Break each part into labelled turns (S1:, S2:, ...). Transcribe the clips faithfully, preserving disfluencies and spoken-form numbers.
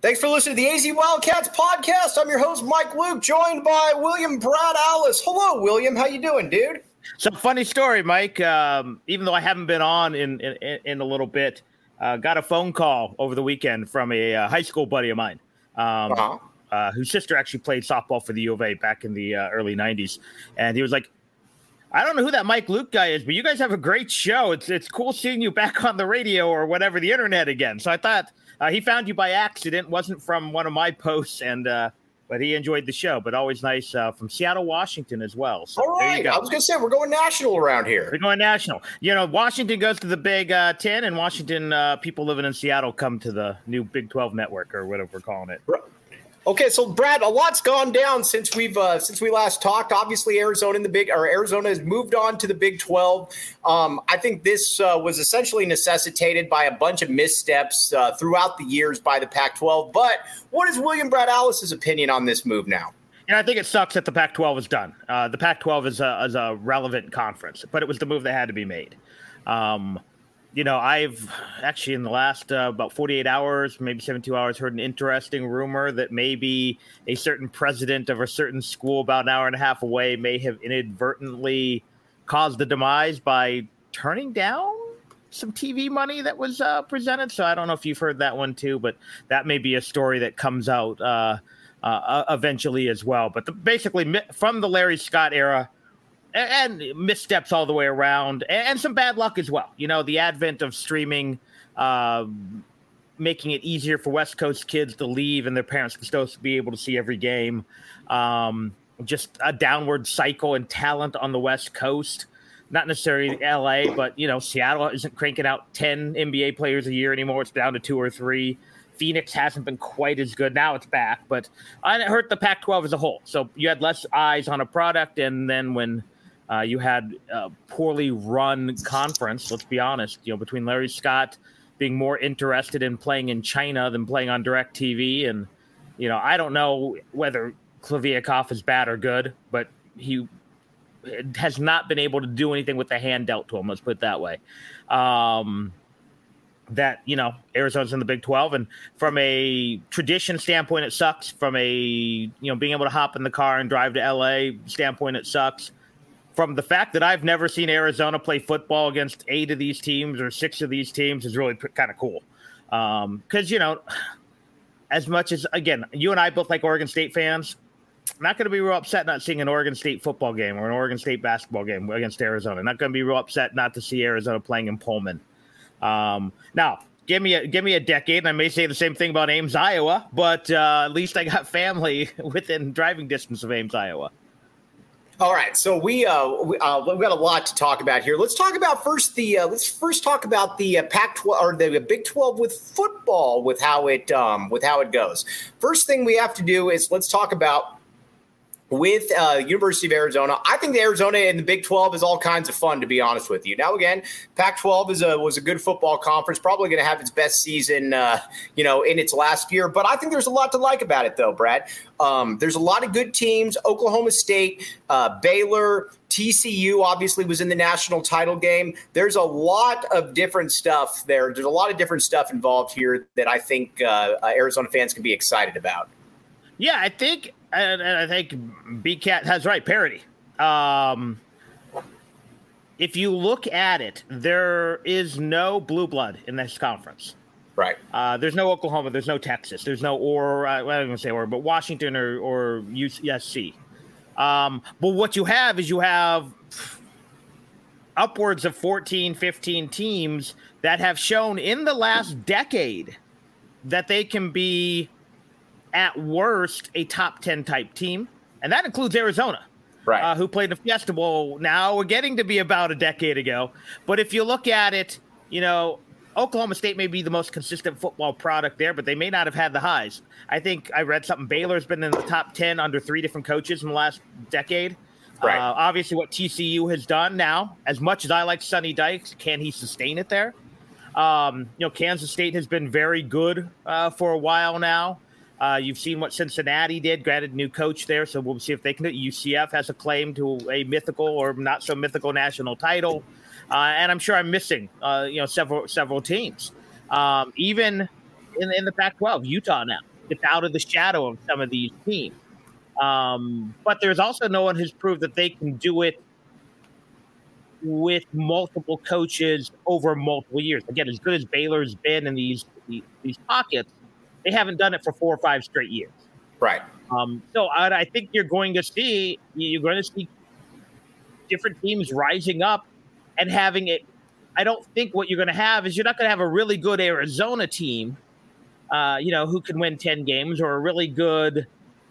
S1: Thanks for listening to the A Z Wildcats podcast. I'm your host, Mike Luke, joined by William Brad Allis. Hello, William. How you doing, dude?
S2: So funny story, Mike. Um, even though I haven't been on in in, in a little bit, uh, got a phone call over the weekend from a uh, high school buddy of mine, um, uh-huh. uh, whose sister actually played softball for the U of A back in the uh, early nineties, and he was like, I don't know who that Mike Luke guy is, but you guys have a great show. It's it's cool seeing you back on the radio or whatever, the internet again. So I thought uh, he found you by accident. Wasn't from one of my posts, and uh, but he enjoyed the show. But always nice uh, from Seattle, Washington as well. So
S1: all right. I was going to say, we're going national around here.
S2: We're going national. You know, Washington goes to the Big uh, Ten, and Washington uh, people living in Seattle come to the new Big twelve network or whatever we're calling it.
S1: Right. Okay, so Brad, a lot's gone down since we've uh, since we last talked. Obviously, Arizona in the big or Arizona has moved on to the Big twelve. Um, I think this uh, was essentially necessitated by a bunch of missteps uh, throughout the years by the Pac twelve. But what is William Brad Allis's opinion on this move now?
S2: And I think it sucks that the Pac twelve is done. Uh, the Pac twelve is a, is a relevant conference, but it was the move that had to be made. Um, You know, I've actually in the last uh, about forty-eight hours, maybe seventy-two hours, heard an interesting rumor that maybe a certain president of a certain school about an hour and a half away may have inadvertently caused the demise by turning down some T V money that was uh, presented. So I don't know if you've heard that one too, but that may be a story that comes out uh, uh, eventually as well. But the, basically from the Larry Scott era, and missteps all the way around, and some bad luck as well. You know, the advent of streaming, uh, making it easier for West Coast kids to leave and their parents to still be able to see every game. Um, just a downward cycle in talent on the West Coast. Not necessarily L A, but, you know, Seattle isn't cranking out ten N B A players a year anymore. It's down to two or three. Phoenix hasn't been quite as good. Now it's back, but it hurt the Pac twelve as a whole. So you had less eyes on a product, and then when Uh, you had a poorly run conference, let's be honest, you know, between Larry Scott being more interested in playing in China than playing on DirecTV. And, you know, I don't know whether Kliavkoff is bad or good, but he has not been able to do anything with the hand dealt to him. Let's put it that way. Um, that, you know, Arizona's in the Big twelve. And from a tradition standpoint, it sucks. From a, you know, being able to hop in the car and drive to L A standpoint, it sucks. From the fact that I've never seen Arizona play football against eight of these teams or six of these teams is really kind of cool. Um, because, you know, as much as, again, you and I both like Oregon State fans, I'm not going to be real upset not seeing an Oregon State football game or an Oregon State basketball game against Arizona. Not going to be real upset not to see Arizona playing in Pullman. Um, now, give me a give me a decade, and I may say the same thing about Ames, Iowa, but uh, at least I got family within driving distance of Ames, Iowa.
S1: All right, so we uh, we uh, we've got a lot to talk about here. Let's talk about first the uh, let's first talk about the uh, Pac twelve or the Big twelve with football, with how it um, with how it goes. First thing we have to do is let's talk about with uh, University of Arizona. I think the Arizona in the Big twelve is all kinds of fun, to be honest with you. Now, again, Pac twelve is a was a good football conference, probably going to have its best season, uh, you know, in its last year. But I think there's a lot to like about it, though, Brad. Um, there's a lot of good teams. Oklahoma State, uh, Baylor, T C U obviously was in the national title game. There's a lot of different stuff there. There's a lot of different stuff involved here that I think uh, uh, Arizona fans can be excited about.
S2: Yeah, I think. And, and I think B CAT has right, parity. Um, if you look at it, there is no blue blood in this conference.
S1: Right.
S2: Uh, there's no Oklahoma. There's no Texas. There's no or uh, well, I don't want to say or, but Washington or or U S C. Um, but what you have is you have upwards of fourteen, fifteen teams that have shown in the last decade that they can be, at worst, a top ten type team. And that includes Arizona,
S1: right?
S2: Uh, who played the Fiesta Bowl now. We're getting to be about a decade ago. But if you look at it, you know, Oklahoma State may be the most consistent football product there, but they may not have had the highs. I think I read something. Baylor's been in the top ten under three different coaches in the last decade.
S1: Right.
S2: Uh, obviously, what T C U has done now, as much as I like Sonny Dykes, can he sustain it there? Um, you know, Kansas State has been very good uh, for a while now. Uh, you've seen what Cincinnati did, granted new coach there, so we'll see if they can do it. U C F has a claim to a mythical or not so mythical national title. Uh, and I'm sure I'm missing, uh, you know, several several teams. Um, even in, in the Pac twelve, Utah now. it's out of the shadow of some of these teams. Um, but there's also no one who's proved that they can do it with multiple coaches over multiple years. Again, as good as Baylor's been in these these, these pockets, they haven't done it for four or five straight years.
S1: Right.
S2: Um, so I, I think you're going to see you're going to see different teams rising up and having it. I don't think what you're going to have is you're not going to have a really good Arizona team, uh, you know, who can win ten games, or a really good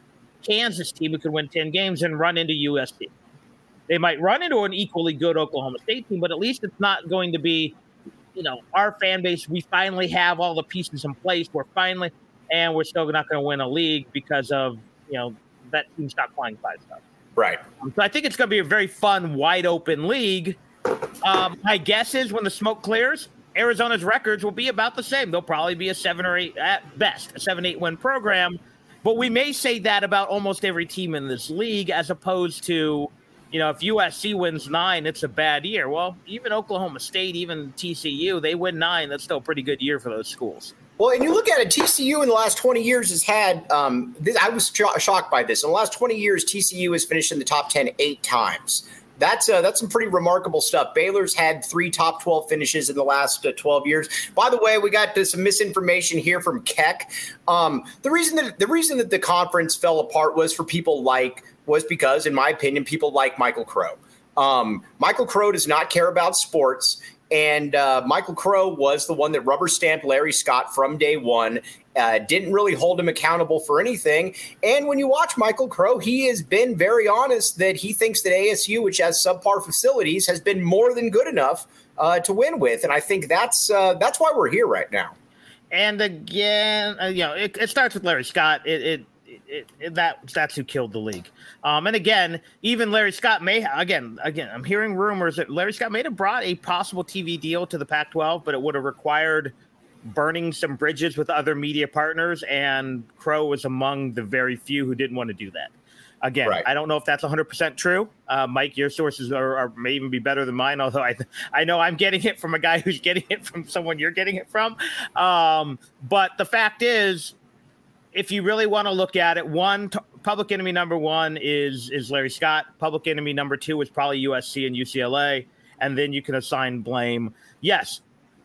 S2: Kansas team who can win ten games and run into U S C. They might run into an equally good Oklahoma State team, but at least it's not going to be, you know, our fan base. We finally have all the pieces in place. We're finally, and we're still not going to win a league because of, you know, that team stopped playing five stuff.
S1: Right.
S2: Um, so I think it's going to be a very fun, wide open league. Um, my guess is when the smoke clears, Arizona's records will be about the same. They'll probably be a seven or eight at best, a seven, eight win program. But we may say that about almost every team in this league, as opposed to, you know, if U S C wins nine, it's a bad year. Well, even Oklahoma State, even T C U, they win nine. That's still a pretty good year for those schools.
S1: Well, and you look at it, T C U in the last twenty years has had um, – I was sh- shocked by this. In the last twenty years, T C U has finished in the top ten eight times. That's uh, that's some pretty remarkable stuff. Baylor's had three top twelve finishes in the last uh, twelve years. By the way, we got uh, some misinformation here from Keck. Um, the reason that the reason that the conference fell apart was for people like was because, in my opinion, people like Michael Crow. Um, Michael Crow does not care about sports. And uh, Michael Crow was the one that rubber stamped Larry Scott from day one, uh, didn't really hold him accountable for anything. And when you watch Michael Crow, he has been very honest that he thinks that A S U, which has subpar facilities, has been more than good enough uh, to win with. And I think that's uh, that's why we're here right now.
S2: And again, uh, you know, it, it starts with Larry Scott. It, it It, it, that that's who killed the league. Um, and again, even Larry Scott may again again. I'm hearing rumors that Larry Scott may have brought a possible T V deal to the Pac twelve, but it would have required burning some bridges with other media partners. And Crow was among the very few who didn't want to do that. Again, right. I don't know if that's one hundred percent true. Uh, Mike, your sources are, are may even be better than mine, although I I know I'm getting it from a guy who's getting it from someone you're getting it from. Um, but the fact is, if you really want to look at it, one t- public enemy number one is is Larry Scott. Public enemy number two is probably U S C and U C L A, and then you can assign blame. Yes,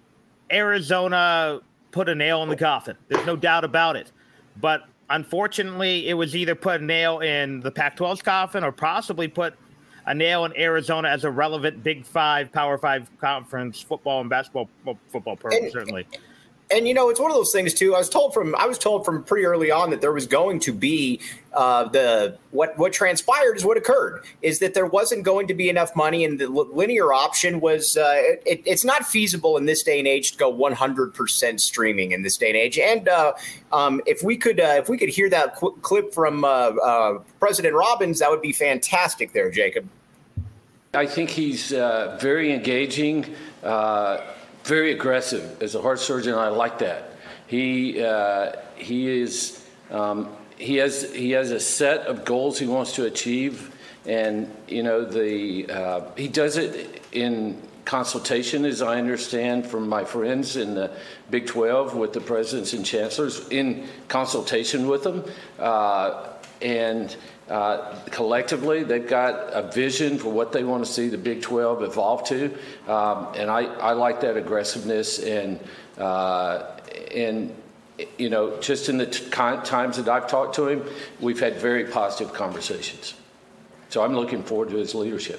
S2: Arizona put a nail in the coffin. There's no doubt about it. But unfortunately, it was either put a nail in the Pac twelve's coffin or possibly put a nail in Arizona as a relevant Big Five, Power Five conference football and basketball well, football program, and, certainly.
S1: And, you know, it's one of those things, too. I was told from I was told from pretty early on that there was going to be uh, the what what transpired is what occurred is that there wasn't going to be enough money. And the linear option was uh, it, it's not feasible in this day and age to go one hundred percent streaming in this day and age. And uh, um, if we could uh, if we could hear that qu- clip from uh, uh, President Robbins, that would be fantastic there, Jacob.
S3: I think he's uh, very engaging. Uh Very aggressive. As a heart surgeon, I like that. He uh, he is um, he has he has a set of goals he wants to achieve, and you know the uh, he does it in consultation, as I understand from my friends in the Big twelve with the presidents and chancellors, in consultation with them, uh, and. Uh, collectively, they've got a vision for what they want to see the Big twelve evolve to, um, and I, I like that aggressiveness. And uh, and you know, just in the t- times that I've talked to him, we've had very positive conversations. So I'm looking forward to his leadership.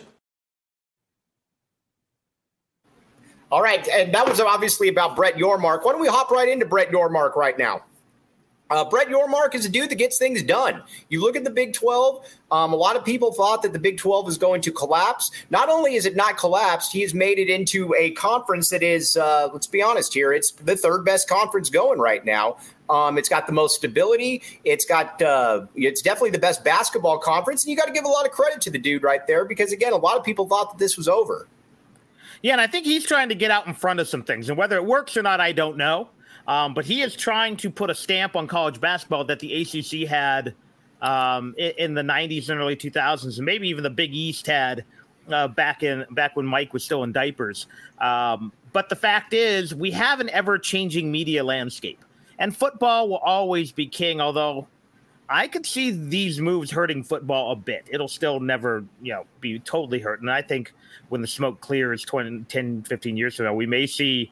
S1: All right, and that was obviously about Brett Yormark. Why don't we hop right into Brett Yormark right now? Uh, Brett Yormark is a dude that gets things done. You look at the Big twelve. Um, a lot of people thought that the Big twelve was going to collapse. Not only is it not collapsed, he has made it into a conference that is, uh, let's be honest here, it's the third best conference going right now. Um, it's got the most stability. It's got, uh, it's definitely the best basketball conference. And you got to give a lot of credit to the dude right there because, again, a lot of people thought that this was over.
S2: Yeah, and I think he's trying to get out in front of some things. And whether it works or not, I don't know. Um, but he is trying to put a stamp on college basketball that the A C C had um, in, in the nineties and early two thousands, and maybe even the Big East had uh, back in back when Mike was still in diapers. Um, but the fact is, we have an ever-changing media landscape, And football will always be king, although I could see these moves hurting football a bit. It'll still never, you know, be totally hurt. And I think when the smoke clears twenty, ten, fifteen years from now, we may see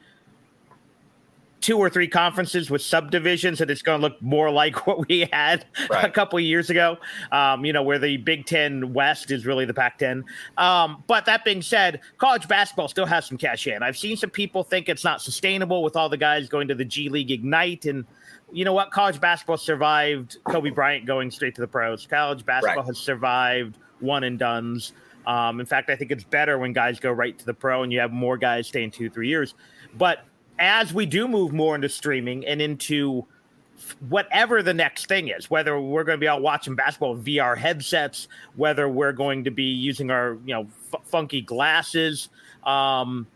S2: two or three conferences with subdivisions, and it's going to look more like what we had right. a couple of years ago, um, you know, where the Big Ten West is really the Pac ten. Um, but that being said, college basketball still has some cachet. And I've seen some people think it's not sustainable with all the guys going to the G League Ignite. And you know what? College basketball survived Kobe Bryant going straight to the pros. College basketball right. has survived one and dones. Um, in fact, I think it's better when guys go right to the pro and you have more guys staying two, three years. But as we do move more into streaming and into whatever the next thing is, whether we're going to be out watching basketball with V R headsets, whether we're going to be using our, you know, f- funky glasses, um,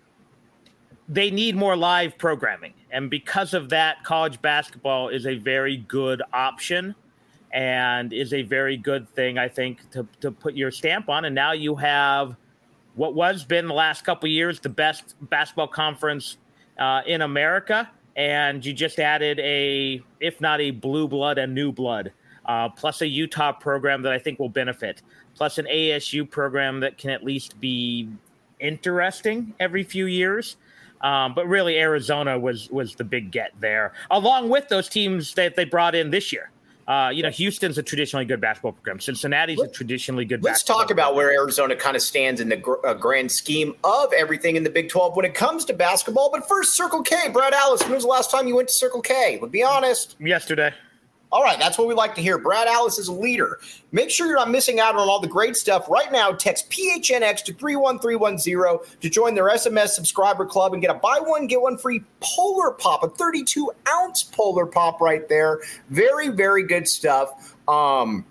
S2: they need more live programming. And because of that, college basketball is a very good option and is a very good thing, I think, to, to put your stamp on. And now you have what was been the last couple of years, the best basketball conference Uh, in America, and you just added a, if not a blue blood, a new blood, uh, plus a Utah program that I think will benefit, plus an A S U program that can at least be interesting every few years. Um, but really, Arizona was was the big get there, along with those teams that they brought in this year. Uh, you know, Houston's a traditionally good basketball program. Cincinnati's a traditionally good
S1: Let's
S2: basketball
S1: talk about
S2: program.
S1: where Arizona kind of stands in the gr- uh, grand scheme of everything in the Big twelve when it comes to basketball. But first, Circle K. Brad Allis, when was the last time you went to Circle K? Let's be honest.
S2: Yesterday.
S1: All right, that's what we like to hear. Brad Allis is a leader. Make sure you're not missing out on all the great stuff. Right now, text P H N X to three one three one zero to join their S M S subscriber club and get a buy one, get one free Polar Pop, a thirty-two ounce Polar Pop right there. Very, very good stuff. Um,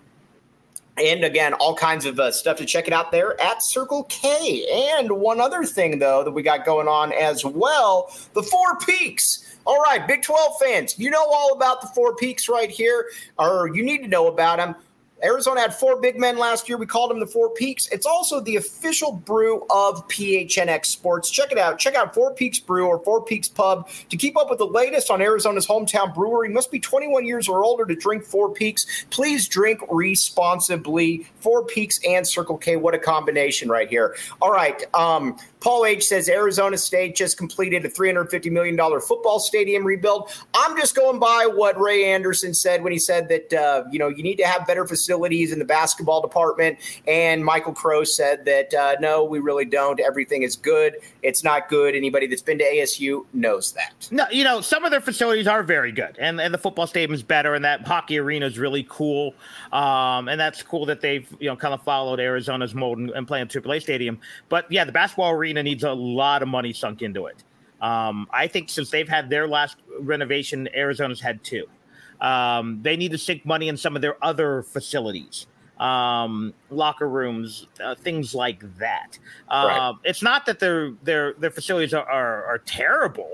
S1: and again, all kinds of uh, stuff to check it out there at Circle K. And one other thing, though, that we got going on as well, the Four Peaks. All right, Big twelve fans, you know all about the Four Peaks right here, or you need to know about them. Arizona had four big men last year. We called them the Four Peaks. It's also the official brew of P H N X Sports. Check it out. Check out Four Peaks Brew or Four Peaks Pub to keep up with the latest on Arizona's hometown brewery. You must be twenty-one years or older to drink Four Peaks. Please drink responsibly. Four Peaks and Circle K. What a combination right here. All right. Um, Paul H. says Arizona State just completed a three hundred fifty million dollars football stadium rebuild. I'm just going by what Ray Anderson said when he said that, uh, you know, you need to have better facilities in the basketball department. And Michael Crow said that, uh, no, we really don't. Everything is good. It's not good. Anybody that's been to A S U knows that.
S2: No, you know, some of their facilities are very good. And, and the football stadium is better. And that hockey arena is really cool. Um, and that's cool that they've, you know, kind of followed Arizona's mold and, and playing triple A stadium. But, yeah, the basketball arena needs a lot of money sunk into it. Um, I think since they've had their last renovation, Arizona's had two. Um, they need to sink money in some of their other facilities, um, locker rooms, uh, things like that. Uh, right. It's not that their their their facilities are are, are terrible.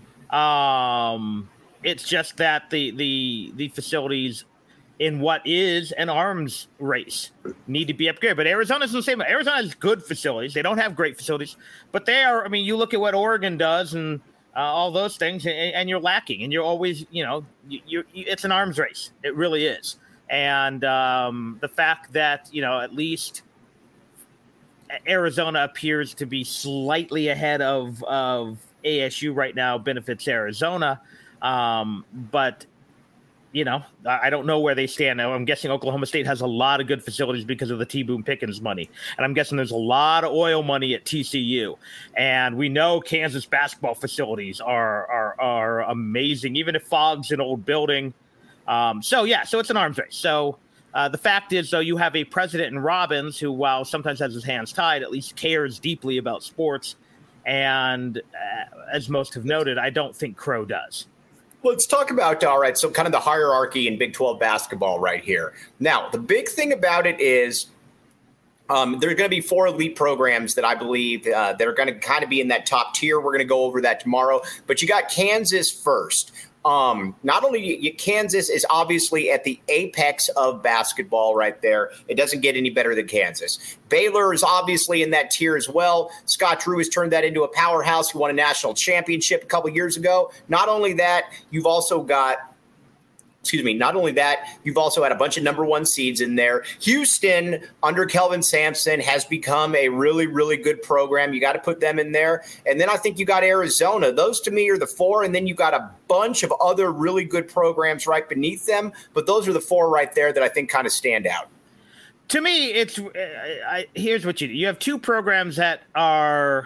S2: Um, it's just that the the the facilities in what is an arms race need to be upgraded. But Arizona's the same. Arizona has good facilities. They don't have great facilities, but they are. I mean, you look at what Oregon does and uh, all those things, and, and you're lacking. And you're always, you know, you, you're, you, it's an arms race. It really is. And um, the fact that, you know, at least Arizona appears to be slightly ahead of of A S U right now benefits Arizona, um, but. You know, I don't know where they stand now. I'm guessing Oklahoma State has a lot of good facilities because of the T. Boone Pickens money. And I'm guessing there's a lot of oil money at T C U. And we know Kansas basketball facilities are are, are amazing, even if Fogg's an old building. Um, so, yeah, so it's an arms race. So uh, the fact is, though, you have a president in Robbins who, while sometimes has his hands tied, at least cares deeply about sports. And uh, as most have noted, I don't think Crow does.
S1: Let's talk about, all right, so kind of the hierarchy in Big twelve basketball right here. Now, the big thing about it is um, there's going to be four elite programs that I believe uh, that are going to kind of be in that top tier. We're going to go over that tomorrow. But you got Kansas first. Um, not only you, Kansas is obviously at the apex of basketball right there. It doesn't get any better than Kansas. Baylor is obviously in that tier as well. Scott Drew has turned that into a powerhouse. He won a national championship a couple years ago. Not only that, you've also got Excuse me. Not only that, you've also had a bunch of number one seeds in there. Houston, under Kelvin Sampson, has become a really, really good program. You got to put them in there. And then I think you got Arizona. Those, to me, are the four. And then you got a bunch of other really good programs right beneath them. But those are the four right there that I think kind of stand out.
S2: To me, it's I, here's what you do. You have two programs that are,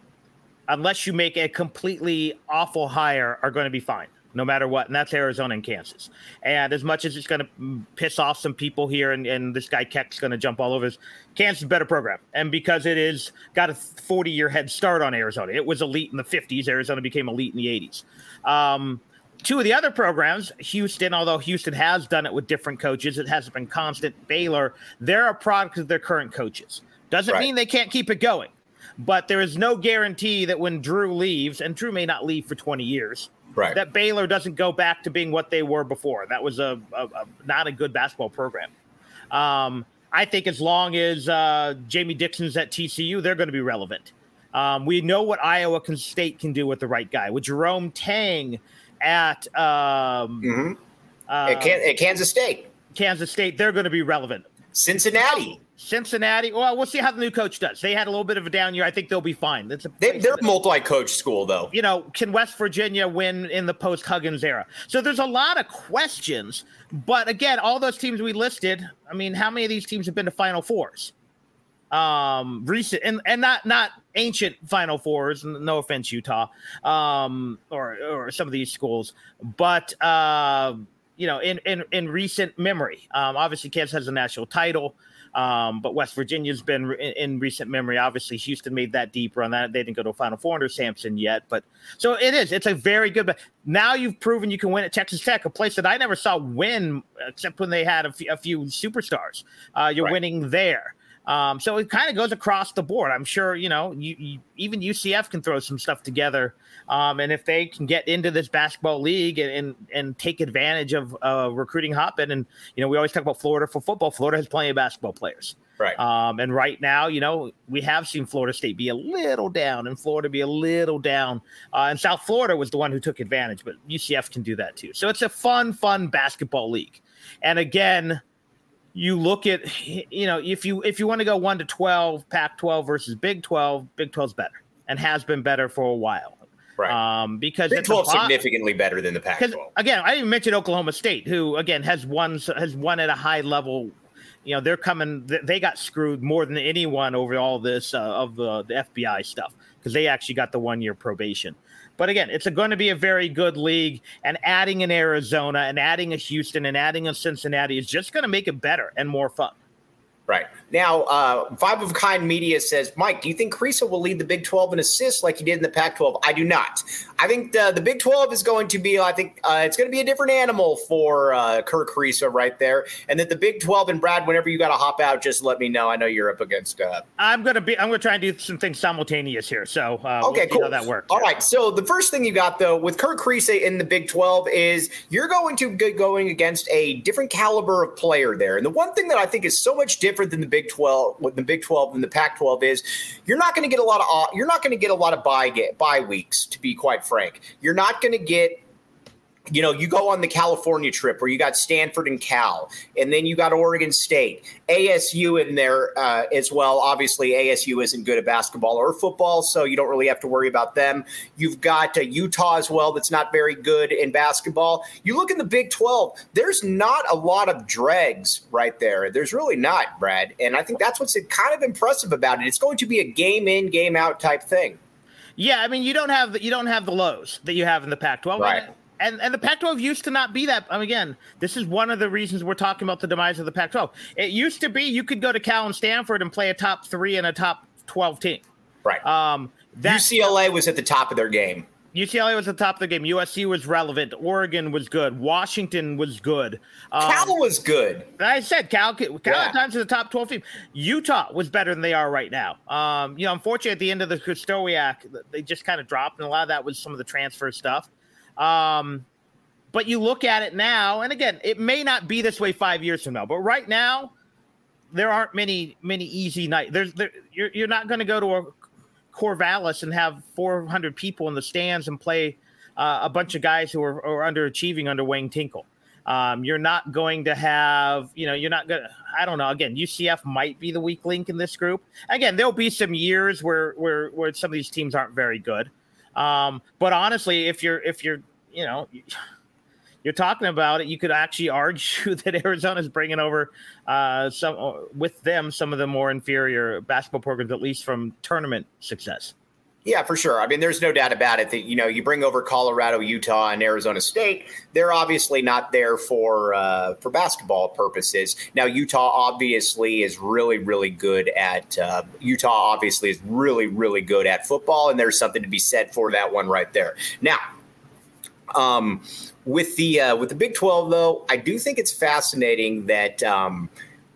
S2: unless you make a completely awful hire, are going to be fine, no matter what, and that's Arizona and Kansas. And as much as it's going to piss off some people here, and, and this guy Keck's going to jump all over this, Kansas is a better program. And because it is got a forty-year head start on Arizona. It was elite in the fifties. Arizona became elite in the eighties. Um, two of the other programs, Houston, although Houston has done it with different coaches, it hasn't been constant. Baylor, they're a product of their current coaches. Doesn't right. mean they can't keep it going. But there is no guarantee that when Drew leaves, and Drew may not leave for twenty years, right. that Baylor doesn't go back to being what they were before. That was a, a, a not a good basketball program. Um, I think as long as uh, Jamie Dixon's at T C U, they're going to be relevant. Um, we know what Iowa State can do with the right guy. With Jerome Tang at, um,
S1: mm-hmm.
S2: uh,
S1: at, Can- at Kansas State.
S2: Kansas State, they're going to be relevant.
S1: Cincinnati.
S2: Cincinnati. Well, we'll see how the new coach does. They had a little bit of a down year. I think they'll be fine. That's a
S1: they, they're a multi-coach school, though.
S2: You know, can West Virginia win in the post-Huggins era? So there's a lot of questions. But again, all those teams we listed, I mean, how many of these teams have been to Final Fours? Um, recent and, and not not ancient Final Fours. No offense, Utah, um, or or some of these schools, but uh, you know, in in in recent memory, um, obviously Kansas has a national title. Um, but West Virginia's been re- in recent memory. Obviously, Houston made that deep run. That they didn't go to a Final Four under Sampson yet, but so it is. It's a very good. Now you've proven you can win at Texas Tech, a place that I never saw win except when they had a, f- a few superstars. Uh, you're right. winning there. Um, so it kind of goes across the board. I'm sure, you know, you, you, even U C F can throw some stuff together. Um, and if they can get into this basketball league and and, and take advantage of uh, recruiting hotbed, and, you know, we always talk about Florida for football. Florida has plenty of basketball players.
S1: Right.
S2: Um, and right now, you know, we have seen Florida State be a little down and Florida be a little down. Uh, and South Florida was the one who took advantage, but U C F can do that too. So it's a fun, fun basketball league. And again, you look at, you know, if you if you want to go one to twelve, Pac twelve versus Big twelve, Big twelve is better and has been better for a while.
S1: Right.
S2: Um, because
S1: Big twelve is significantly better than the Pac twelve.
S2: Again, I didn't mention Oklahoma State, who again has won has won at a high level. You know, they're coming. They got screwed more than anyone over all this uh, of the, the F B I stuff because they actually got the one year probation. But again, it's going to be a very good league, and adding an Arizona and adding a Houston and adding a Cincinnati is just going to make it better and more fun.
S1: Right. Now, uh, Five of a Kind Media says, Mike, do you think Kriisa will lead the Big twelve in assists like he did in the Pac twelve? I do not. I think the, the Big twelve is going to be, I think uh, it's going to be a different animal for uh, Kerr Kriisa right there. And that the Big twelve, and Brad, whenever you got to hop out, just let me know. I know you're up against. Uh,
S2: I'm going to be, I'm going to try and do some things simultaneous here. So uh,
S1: okay,
S2: we'll see
S1: cool.
S2: how that works.
S1: All right. So the first thing you got, though, with Kerr Kriisa in the Big twelve is you're going to be going against a different caliber of player there. And the one thing that I think is so much different than the Big twelve, with the Big twelve and the Pac twelve is you're not going to get a lot of you're not going to get a lot of bye get bye weeks, to be quite frank. You're not going to get, you know, you go on the California trip where you got Stanford and Cal, and then you got Oregon State, A S U in there uh, as well. Obviously, A S U isn't good at basketball or football, so you don't really have to worry about them. You've got uh, Utah as well that's not very good in basketball. You look in the Big twelve, there's not a lot of dregs right there. There's really not, Brad, and I think that's what's kind of impressive about it. It's going to be a game in, game out type thing.
S2: Yeah, I mean, you don't have the, you don't have the lows that you have in the Pac twelve.
S1: Right.
S2: And and the Pac twelve used to not be that. I mean, again, this is one of the reasons we're talking about the demise of the Pac twelve. It used to be you could go to Cal and Stanford and play a top three and a top twelve team.
S1: Right.
S2: Um, that,
S1: U C L A was at the top of their game.
S2: U C L A was at the top of the game. U S C was relevant. Oregon was good. Washington was good. Um,
S1: Cal was good.
S2: I said Cal. Cal
S1: yeah.
S2: at times is the top twelve team. Utah was better than they are right now. Um, you know, unfortunately, at the end of the Krystkowiak, they just kind of dropped, and a lot of that was some of the transfer stuff. Um, but you look at it now, and again, it may not be this way five years from now, but right now, there aren't many, many easy nights. There's, there, you're, you're not going to go to a Corvallis and have four hundred people in the stands and play uh, a bunch of guys who are, are underachieving under Wayne Tinkle. Um, you're not going to have, you know, you're not going to, I don't know. Again, U C F might be the weak link in this group. Again, there'll be some years where, where, where some of these teams aren't very good. Um, but honestly, if you're, if you're, you know, you're talking about it, you could actually argue that Arizona's bringing over uh, some with them, some of the more inferior basketball programs, at least from tournament success.
S1: Yeah, for sure. I mean, there's no doubt about it that, you know, you bring over Colorado, Utah, and Arizona State. They're obviously not there for uh, for basketball purposes. Now, Utah obviously is really, really good at uh, Utah obviously is really, really good at football. And there's something to be said for that one right there. Now, um, with the uh, with the Big twelve, though, I do think it's fascinating that um,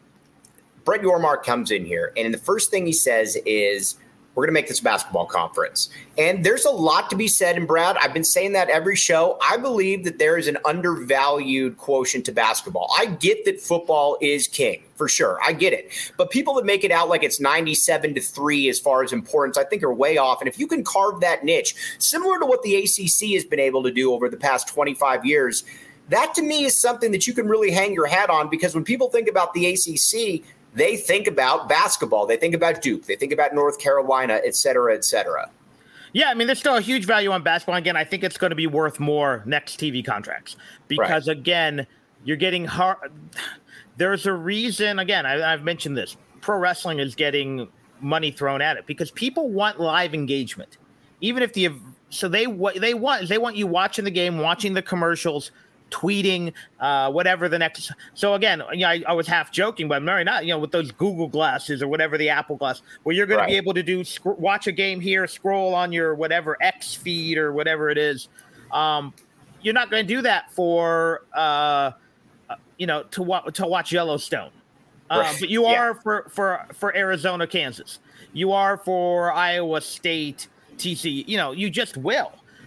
S1: Brett Yormark comes in here. And the first thing he says is, we're going to make this a basketball conference. And there's a lot to be said. And Brad, I've been saying that every show. I believe that there is an undervalued quotient to basketball. I get that football is king, for sure. I get it. But people that make it out like it's ninety-seven to three as far as importance, I think are way off. And if you can carve that niche, similar to what the A C C has been able to do over the past twenty-five years, that to me is something that you can really hang your hat on, because when people think about the A C C, they think about basketball. They think about Duke. They think about North Carolina, et cetera, et cetera.
S2: Yeah, I mean, there's still a huge value on basketball. Again, I think it's going to be worth more next T V contracts because, right. again, you're getting hard. There's a reason, again, I, I've mentioned this. Pro wrestling is getting money thrown at it because people want live engagement. Even if the – so they what they want they want you watching the game, watching the commercials, tweeting, uh, whatever the next. So again, you know, I, I was half joking, but I'm really not. You know, with those Google glasses or whatever the Apple Glass, where you're going right. to be able to do sc- watch a game here, scroll on your whatever X feed or whatever it is. Um, you're not going to do that for uh, you know to wa- to watch Yellowstone, uh, right. but you yeah. are for for for Arizona, Kansas. You are for Iowa State, T C U. You know, you just will.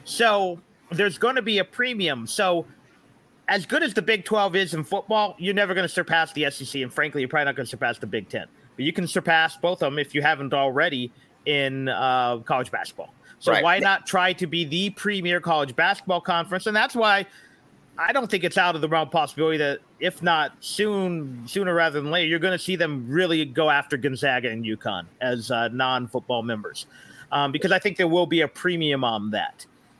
S2: So there's going to be a premium. So. As good as the Big twelve is in football, you're never going to surpass the S E C, and frankly, you're probably not going to surpass the Big ten. But you can surpass both of them if you haven't already in uh, college basketball. So right. why not try to be the premier college basketball conference? And that's why I don't think it's out of the realm of possibility that if not soon, sooner rather than later, you're going to see them really go after Gonzaga and UConn as uh, non-football members, um, because I think there will be a premium on that.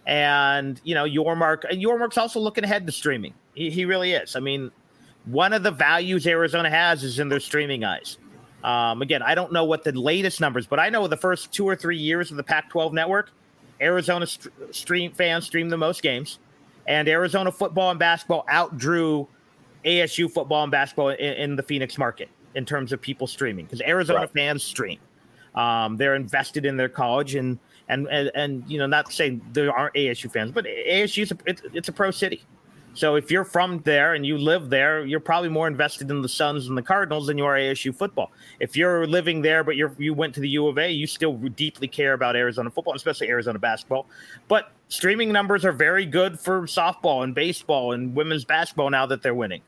S2: And, you know, Yormark, Yormark's also looking ahead to streaming. He, he really is. I mean, one of the values Arizona has is in their streaming eyes. Um, again, I don't know what the latest numbers, but I know the first two or three years of the Pac twelve network, Arizona st- stream fans streamed the most games, and Arizona football and basketball outdrew A S U football and basketball in, in the Phoenix market in terms of people streaming, because Arizona right. fans stream. Um, they're invested in their college, and And, and, and you know, not saying there aren't A S U fans, but A S U is a, it's, it's a pro city. So if you're from there and you live there, you're probably more invested in the Suns and the Cardinals than you are A S U football. If you're living there, but you're, you went to the U of A, you still deeply care about Arizona football, especially Arizona basketball. But streaming numbers are very good for softball and baseball and women's basketball now that they're winning.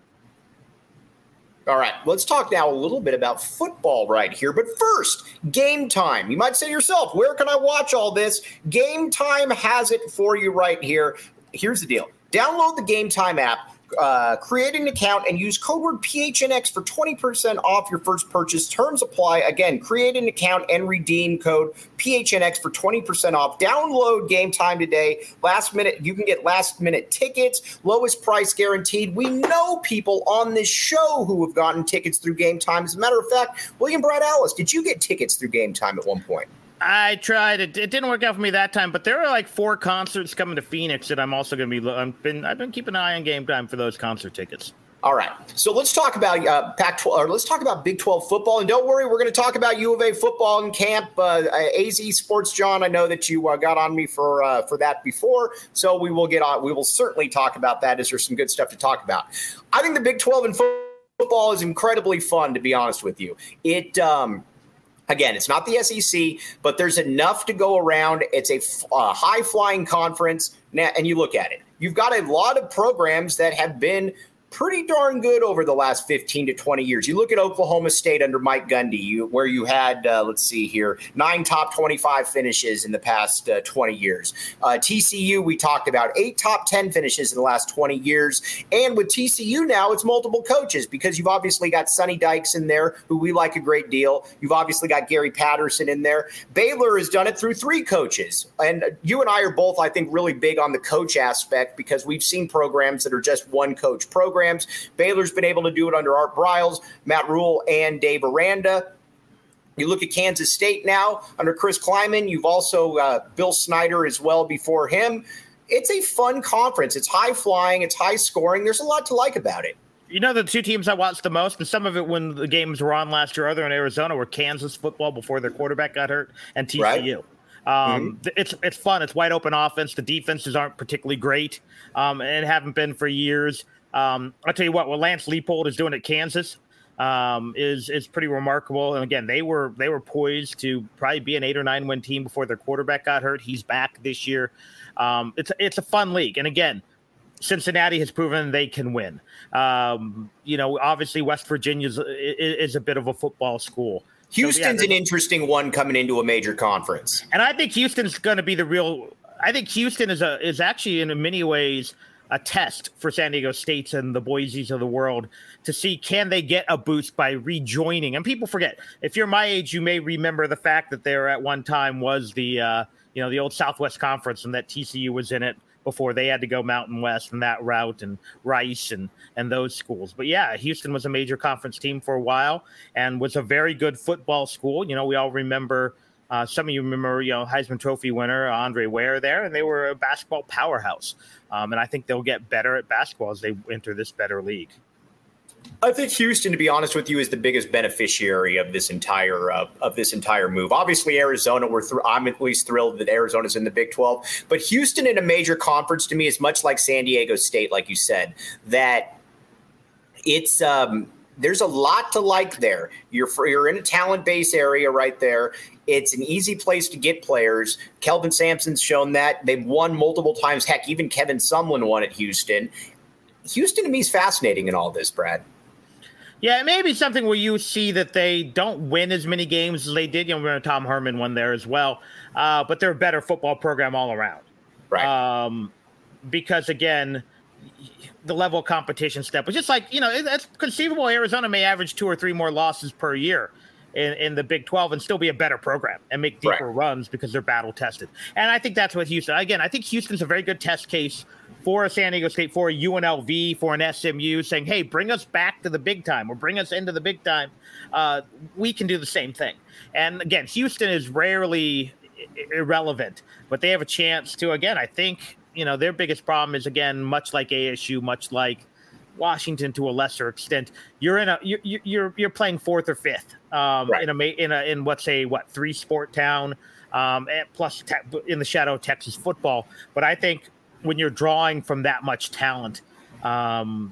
S1: All right, let's talk now a little bit about football right here. But first, Game Time. You might say to yourself, where can I watch all this? Game Time has it for you right here. Here's the deal. Download the Game Time app, uh, create an account, and use code word P H N X for twenty percent off your first purchase. Terms apply. Again, create an account and redeem code P H N X for twenty percent off. Download Game Time today. Last minute, you can get last minute tickets, lowest price guaranteed. We know people on this show who have gotten tickets through Game Time. As a matter of fact, William Brad Alice, did you get tickets through Game Time at one point?
S2: I tried. It, it didn't work out for me that time, but there are like four concerts coming to Phoenix that I'm also going to be. I've been I've been keeping an eye on Game Time for those concert tickets.
S1: All right, so let's talk about uh, Pac twelve, or let's talk about Big twelve football. And don't worry, we're going to talk about U of A football in camp. Uh, A Z Sports, John, I know that you uh, got on me for uh, for that before, so we will get on. We will certainly talk about that, as there's some good stuff to talk about. I think the Big twelve in football is incredibly fun, to be honest with you. It. Um, Again, it's not the S E C, but there's enough to go around. It's a uh, high-flying conference. Now, and you look at it. You've got a lot of programs that have been pretty darn good over the last fifteen to twenty years. You look at Oklahoma State under Mike Gundy, you, where you had, uh, let's see here, nine top twenty-five finishes in the past uh, twenty years. Uh, T C U, we talked about eight top ten finishes in the last twenty years. And with T C U now, it's multiple coaches because you've obviously got Sonny Dykes in there, who we like a great deal. You've obviously got Gary Patterson in there. Baylor has done it through three coaches. And you and I are both, I think, really big on the coach aspect because we've seen programs that are just one coach programs. Baylor's been able to do it under Art Briles, Matt Rule, and Dave Aranda. You look at Kansas State now under Chris Kleiman. You've also uh, Bill Snyder as well before him. It's a fun conference. It's high flying. It's high scoring. There's a lot to like about it.
S2: You know, the two teams I watched the most, and some of it when the games were on last year, other in Arizona, were Kansas football before their quarterback got hurt, and T C U. Right. Um, mm-hmm. It's it's fun. It's wide open offense. The defenses aren't particularly great, um, and haven't been for years. Um, I'll tell you what, what Lance Leipold is doing at Kansas um, is is pretty remarkable. And again, they were they were poised to probably be an eight or nine win team before their quarterback got hurt. He's back this year. Um, it's it's a fun league, and again, Cincinnati has proven they can win. Um, you know, obviously West Virginia is, is a bit of a football school.
S1: Houston's
S2: so, yeah,
S1: an interesting one coming into a major conference,
S2: and I think Houston's going to be the real. I think Houston is a is actually in many ways a test for San Diego States and the Boise's of the world to see, can they get a boost by rejoining? And people forget, if you're my age, you may remember the fact that there at one time was the, uh, you know, the old Southwest Conference, and that T C U was in it before they had to go Mountain West and that route, and Rice and, and those schools. But yeah, Houston was a major conference team for a while and was a very good football school. You know, we all remember, Uh, some of you remember, you know, Heisman Trophy winner Andre Ware there, and they were a basketball powerhouse. Um, and I think they'll get better at basketball as they enter this better league.
S1: I think Houston, to be honest with you, is the biggest beneficiary of this entire uh, of this entire move. Obviously, Arizona, we're th- I'm at least thrilled that Arizona's in the Big twelve. But Houston in a major conference, to me, is much like San Diego State, like you said, that it's um, there's a lot to like there. You're you're in a talent base area right there. It's an easy place to get players. Kelvin Sampson's shown that. They've won multiple times. Heck, even Kevin Sumlin won at Houston. Houston, to me, is fascinating in all this, Brad.
S2: Yeah, it may be something where you see that they don't win as many games as they did. You know, remember Tom Herman won there as well. Uh, but they're a better football program all around.
S1: Right.
S2: Um, because, again, the level of competition step was just like, you know, it's conceivable Arizona may average two or three more losses per year in, in the Big twelve and still be a better program and make deeper right. runs because they're battle tested. And I think that's what Houston, again, I think Houston's a very good test case for a San Diego State, for a U N L V, for an S M U, saying, hey, bring us back to the big time or bring us into the big time. Uh, we can do the same thing. And again, Houston is rarely irrelevant, but they have a chance to, again, I think, you know, their biggest problem is, again, much like A S U, much like Washington to a lesser extent, you're in a you're you're you're playing fourth or fifth um, right. in a in a in what's a what three sport town, um, and plus te- in the shadow of Texas football. But I think when you're drawing from that much talent, um,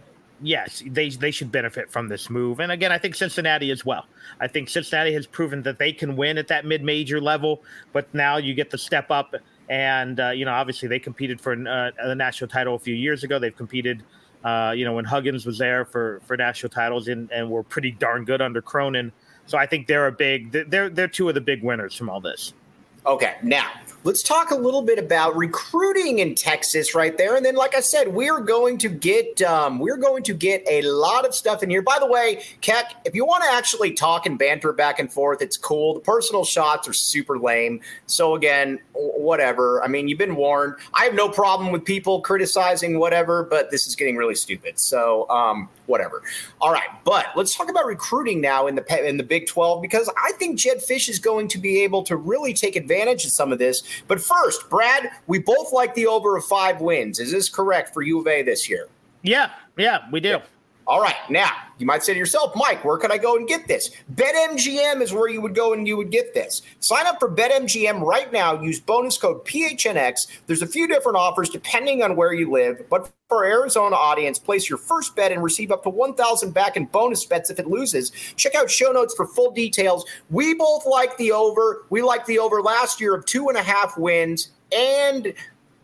S2: yes, they they should benefit from this move. And again, I think Cincinnati as well. I think Cincinnati has proven that they can win at that mid-major level, but now you get the step up. And uh, you know, obviously they competed for uh, the national title a few years ago. They've competed. Uh, you know, when Huggins was there for, for national titles and, and were pretty darn good under Cronin. So I think they're a big, they're, they're two of the big winners from all this.
S1: Okay. Now let's talk a little bit about recruiting in Texas right there. And then, like I said, we're going to get, um, we're going to get a lot of stuff in here. By the way, Keck, if you want to actually talk and banter back and forth, it's cool. The personal shots are super lame. So again, whatever. I mean, you've been warned. I have no problem with people criticizing whatever, but this is getting really stupid. So, um, whatever. All right. But let's talk about recruiting now in the, in the Big twelve, because I think Jedd Fisch is going to be able to really take advantage of some of this. But first, Brad, we both like the over of five wins. Is this correct for U of A this year?
S2: Yeah, yeah, we do.
S1: All right. Now, you might say to yourself, Mike, where could I go and get this? BetMGM is where you would go and you would get this. Sign up for BetMGM right now. Use bonus code P H N X. There's a few different offers depending on where you live. But for our Arizona audience, place your first bet and receive up to one thousand dollars back in bonus bets if it loses. Check out show notes for full details. We both like the over. We liked the over last year of two and a half wins. And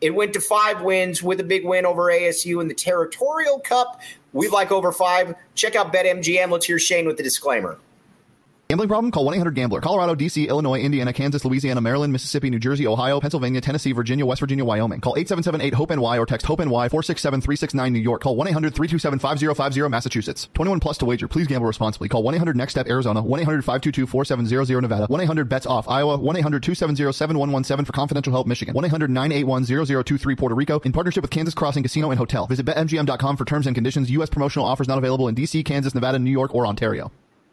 S1: It went to five wins with a big win over A S U in the Territorial Cup. We like over five. Check out BetMGM. Let's hear Shane with the disclaimer.
S4: Gambling problem? Call one eight hundred gambler. Colorado, D C, Illinois, Indiana, Kansas, Louisiana, Maryland, Mississippi, New Jersey, Ohio, Pennsylvania, Tennessee, Virginia, West Virginia, Wyoming. Call eight seven seven eight hope N Y or text HOPE-NY four six seven three six nine New York. Call one eight hundred three two seven five zero five zero Massachusetts. twenty-one plus to wager. Please gamble responsibly. Call one eight hundred next step Arizona. one eight hundred five two two four seven zero zero Nevada. one eight hundred bets off Iowa. one eight hundred two seven zero seven one one seven for confidential help Michigan. one eight hundred nine eight one zero zero two three Puerto Rico. In partnership with Kansas Crossing Casino and Hotel. Visit bet M G M dot com for terms and conditions. U S promotional offers not available in D C, Kansas, Nevada, New York, or Ontario.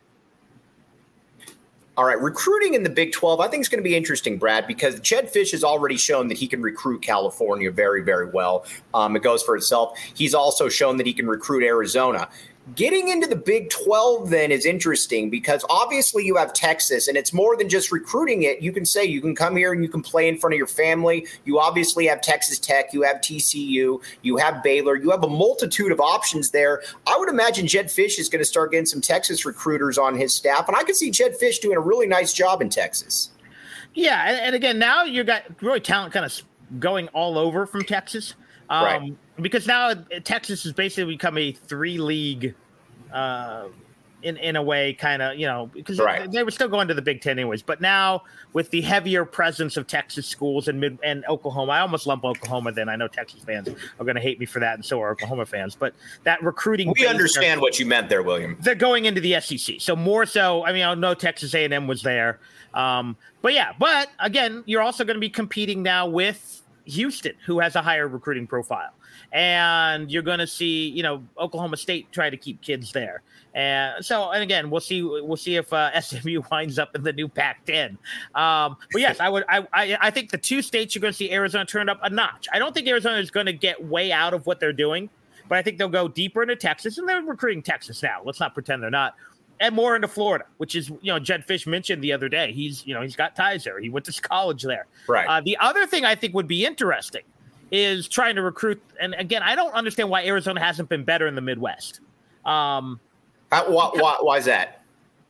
S1: All right, recruiting in the Big twelve, I think it's going to be interesting, Brad, because Jedd Fisch has already shown that he can recruit California very, very well. Um, it goes for itself. He's also shown that he can recruit Arizona. Getting into the Big twelve then is interesting because obviously you have Texas, and it's more than just recruiting it. You can say you can come here and you can play in front of your family. You obviously have Texas Tech, you have T C U, you have Baylor, you have a multitude of options there. I would imagine Jedd Fisch is going to start getting some Texas recruiters on his staff, and I could see Jedd Fisch doing a really nice job in Texas. Yeah,
S2: and, and again, now you got really talent kind of going all over from Texas. Um, right. Because now Texas has basically become a three-league, uh, in in a way, kind of, you know, because right. they, they were still going to the Big Ten anyways. But now with the heavier presence of Texas schools and mid and Oklahoma, I almost lump Oklahoma. Then I know Texas fans are going to hate me for that, and so are Oklahoma fans. But that recruiting,
S1: we understand are, what you meant there, William.
S2: They're going into the S E C, so more so. I mean, I know Texas A and M was there, um, but yeah. But again, you're also going to be competing now with Houston, who has a higher recruiting profile. And you're going to see, you know, Oklahoma State try to keep kids there. And so, and again, we'll see, we'll see if uh, S M U winds up in the new Pac ten. Um, but yes, I would, I, I, I think the two states you're going to see Arizona turn up a notch. I don't think Arizona is going to get way out of what they're doing, but I think they'll go deeper into Texas, and they're recruiting Texas now. Let's not pretend they're not. And more into Florida, which is, you know, Jedd Fisch mentioned the other day. He's, you know, he's got ties there. He went to college there.
S1: Right.
S2: Uh, the other thing I think would be interesting is trying to recruit. And again, I don't understand why Arizona hasn't been better in the Midwest. Um,
S1: uh, why, why, why is that?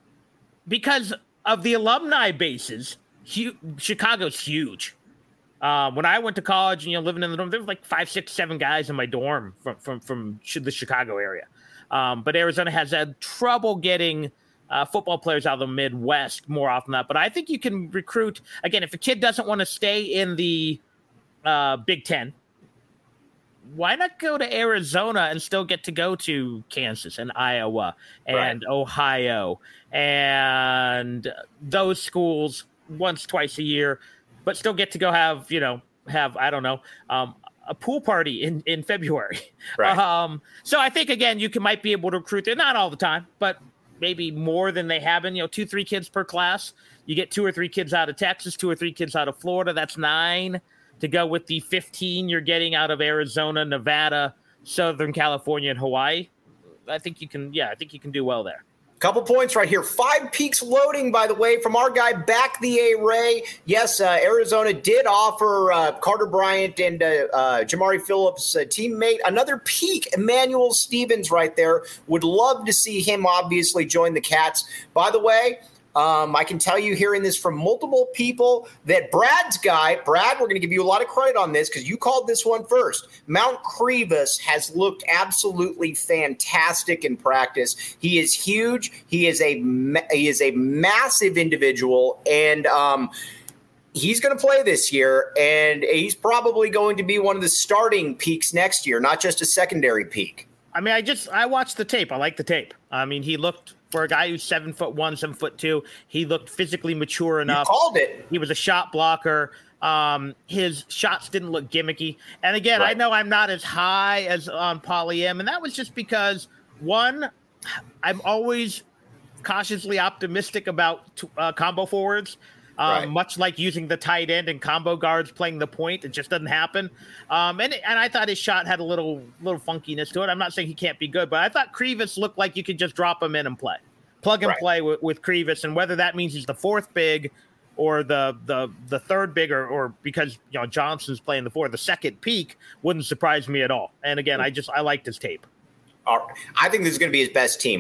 S2: Because of the alumni bases. Hu- Chicago's huge. Uh, when I went to college and, you know, living in the dorm, there were like five, six, seven guys in my dorm from, from, from the Chicago area. Um, but Arizona has had trouble getting uh, football players out of the Midwest more often than that. But I think you can recruit, again, if a kid doesn't want to stay in the uh, Big Ten, why not go to Arizona and still get to go to Kansas and Iowa and right. Ohio and those schools once, twice a year, but still get to go have, you know, have, I don't know, um, a pool party in, in February.
S1: Right.
S2: Um, so I think, again, you can might be able to recruit there, not all the time, but maybe more than they have been, you know, two, three kids per class. You get two or three kids out of Texas, two or three kids out of Florida. That's nine to go with the fifteen you're getting out of Arizona, Nevada, Southern California, and Hawaii. I think you can, yeah, I think you can do well there.
S1: Couple points right here. Five Peaks loading, by the way, from our guy Back the A-Ray. Yes, uh, Arizona did offer uh, Carter Bryant and uh, uh, Jamari Phillips' uh, teammate another peak. Emmanuel Stevens right there. Would love to see him obviously join the Cats. By the way, Um, I can tell you hearing this from multiple people that Brad's guy, Brad, we're going to give you a lot of credit on this because you called this one first. Mount Krivas has looked absolutely fantastic in practice. He is huge. He is a he is a massive individual, and um, he's going to play this year, and he's probably going to be one of the starting peaks next year, not just a secondary peak.
S2: I mean, I just I watched the tape. I like the tape. I mean, he looked. For a guy who's seven foot one, seven foot two, he looked physically mature enough.
S1: You called it.
S2: He was a shot blocker. Um, his shots didn't look gimmicky. And again, right. I know I'm not as high as on Poly M, and that was just because one, I'm always cautiously optimistic about uh, combo forwards. Um, right. Much like using the tight end and combo guards playing the point, it just doesn't happen. Um, and and I thought his shot had a little little funkiness to it. I'm not saying he can't be good, but I thought Krivas looked like you could just drop him in and play, plug and right. play with, with Krivas. And whether that means he's the fourth big or the the the third big, or, or because you know Johnson's playing the four, the second peak wouldn't surprise me at all. And again, I just I liked his tape.
S1: All right. I think this is going to be his best team.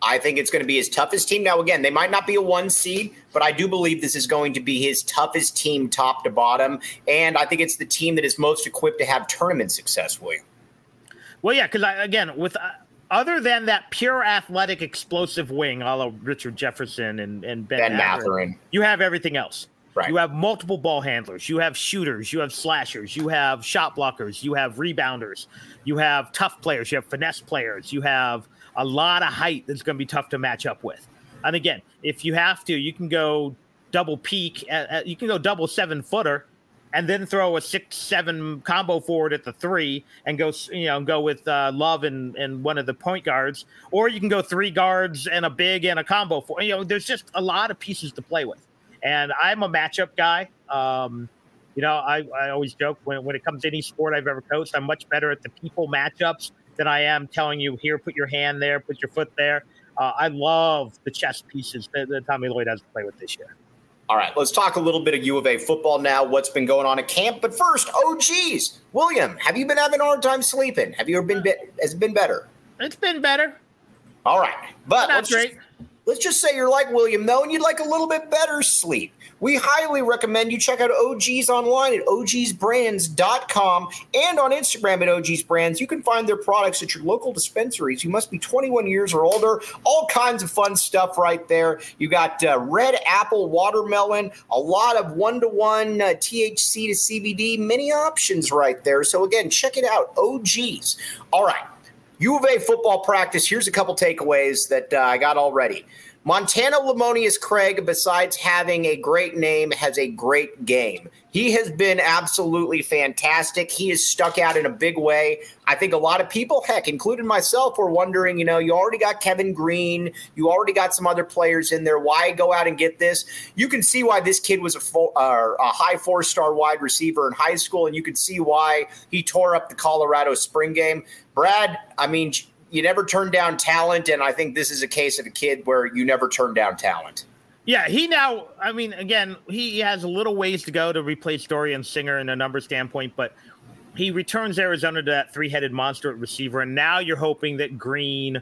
S1: I think it's going to be his toughest team. Now, again, they might not be a one seed, but I do believe this is going to be his toughest team top to bottom. And I think it's the team that is most equipped to have tournament success, William.
S2: Well, yeah, because, again, with uh, other than that pure athletic explosive wing, a la Richard Jefferson and, and Ben,
S1: Ben
S2: Mathurin,
S1: Mathurin,
S2: you have everything else.
S1: Right.
S2: You have multiple ball handlers. You have shooters. You have slashers. You have shot blockers. You have rebounders. You have tough players. You have finesse players. You have a lot of height that's going to be tough to match up with. And again, if you have to, you can go double peak. At, at, you can go double seven footer, and then throw a six seven combo forward at the three, and go you know go with uh, Love and, and one of the point guards, or you can go three guards and a big and a combo forward. You know, there's just a lot of pieces to play with. And I'm a matchup guy. Um, you know, I, I always joke when when it comes to any sport I've ever coached, I'm much better at the people matchups than I am telling you, here, put your hand there, put your foot there. Uh, I love the chess pieces that, that Tommy Lloyd has to play with this year.
S1: All right, let's talk a little bit of U of A football now, what's been going on at camp. But first, oh, geez, William, have you been having a hard time sleeping? Have you ever been, be- has it been better?
S2: It's been better.
S1: All right, but
S2: Not
S1: let's
S2: great.
S1: Just, let's just say you're like William, though, and you'd like a little bit better sleep. We highly recommend you check out O G's online at O Gs brands dot com and on Instagram at O Gs Brands. You can find their products at your local dispensaries. You must be twenty-one years or older. All kinds of fun stuff right there. You got uh, red apple, watermelon, a lot of one-to-one uh, T H C to C B D, many options right there. So, again, check it out, O Gs. All right, U of A football practice. Here's a couple takeaways that uh, I got already. Montana Lamonius Craig, besides having a great name, has a great game. He has been absolutely fantastic. He is stuck out in a big way. I think a lot of people, heck, including myself, were wondering, you know, you already got Kevin Green. You already got some other players in there. Why go out and get this? You can see why this kid was a, full, uh, a high four-star wide receiver in high school, and you can see why he tore up the Colorado spring game. Brad, I mean, you never turn down talent, and I think this is a case of a kid where you never turn down talent.
S2: Yeah, he now, I mean, again, he has a little ways to go to replace Dorian Singer in a number standpoint, but he returns Arizona to that three-headed monster at receiver, and now you're hoping that Green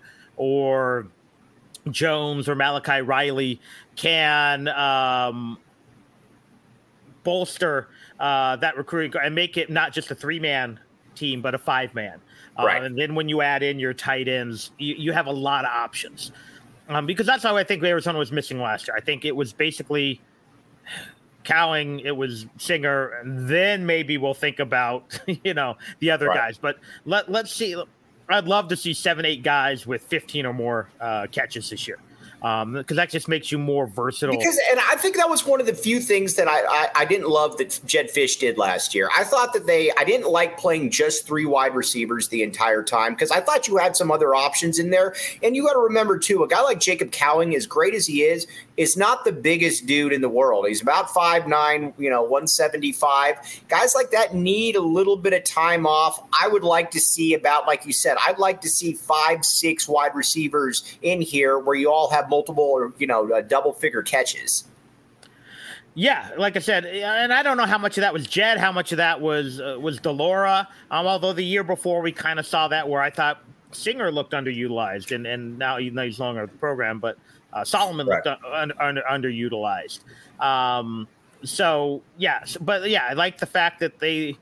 S2: or Jones or Malachi Riley can um, bolster uh, that recruiting and make it not just a three-man team, but a five-man.
S1: Right.
S2: Uh, and then when you add in your tight ends, you, you have a lot of options. Um, because that's how I think Arizona was missing last year. I think it was basically Cowing, it was Singer, and then maybe we'll think about, you know, the other right. guys. But let, let's see. I'd love to see seven, eight guys with fifteen or more uh, catches this year. Um, because that just makes you more versatile.
S1: Because, and I think that was one of the few things that I, I, I didn't love that Jed Fish did last year. I thought that they, I didn't like playing just three wide receivers the entire time because I thought you had some other options in there. And you got to remember too, a guy like Jacob Cowing, as great as he is, is not the biggest dude in the world. He's about five nine, you know, one seventy-five. Guys like that need a little bit of time off. I would like to see about, like you said, I'd like to see five, six wide receivers in here where you all have multiple or, you know, uh, double figure catches.
S2: Yeah, like I said, and I don't know how much of that was Jed, how much of that was uh, was Delora. Um, although the year before we kind of saw that where I thought Singer looked underutilized, and, and now he's no longer with the program, but uh, Solomon right. looked un, un, underutilized. Um, so yeah, but yeah, I like the fact that they,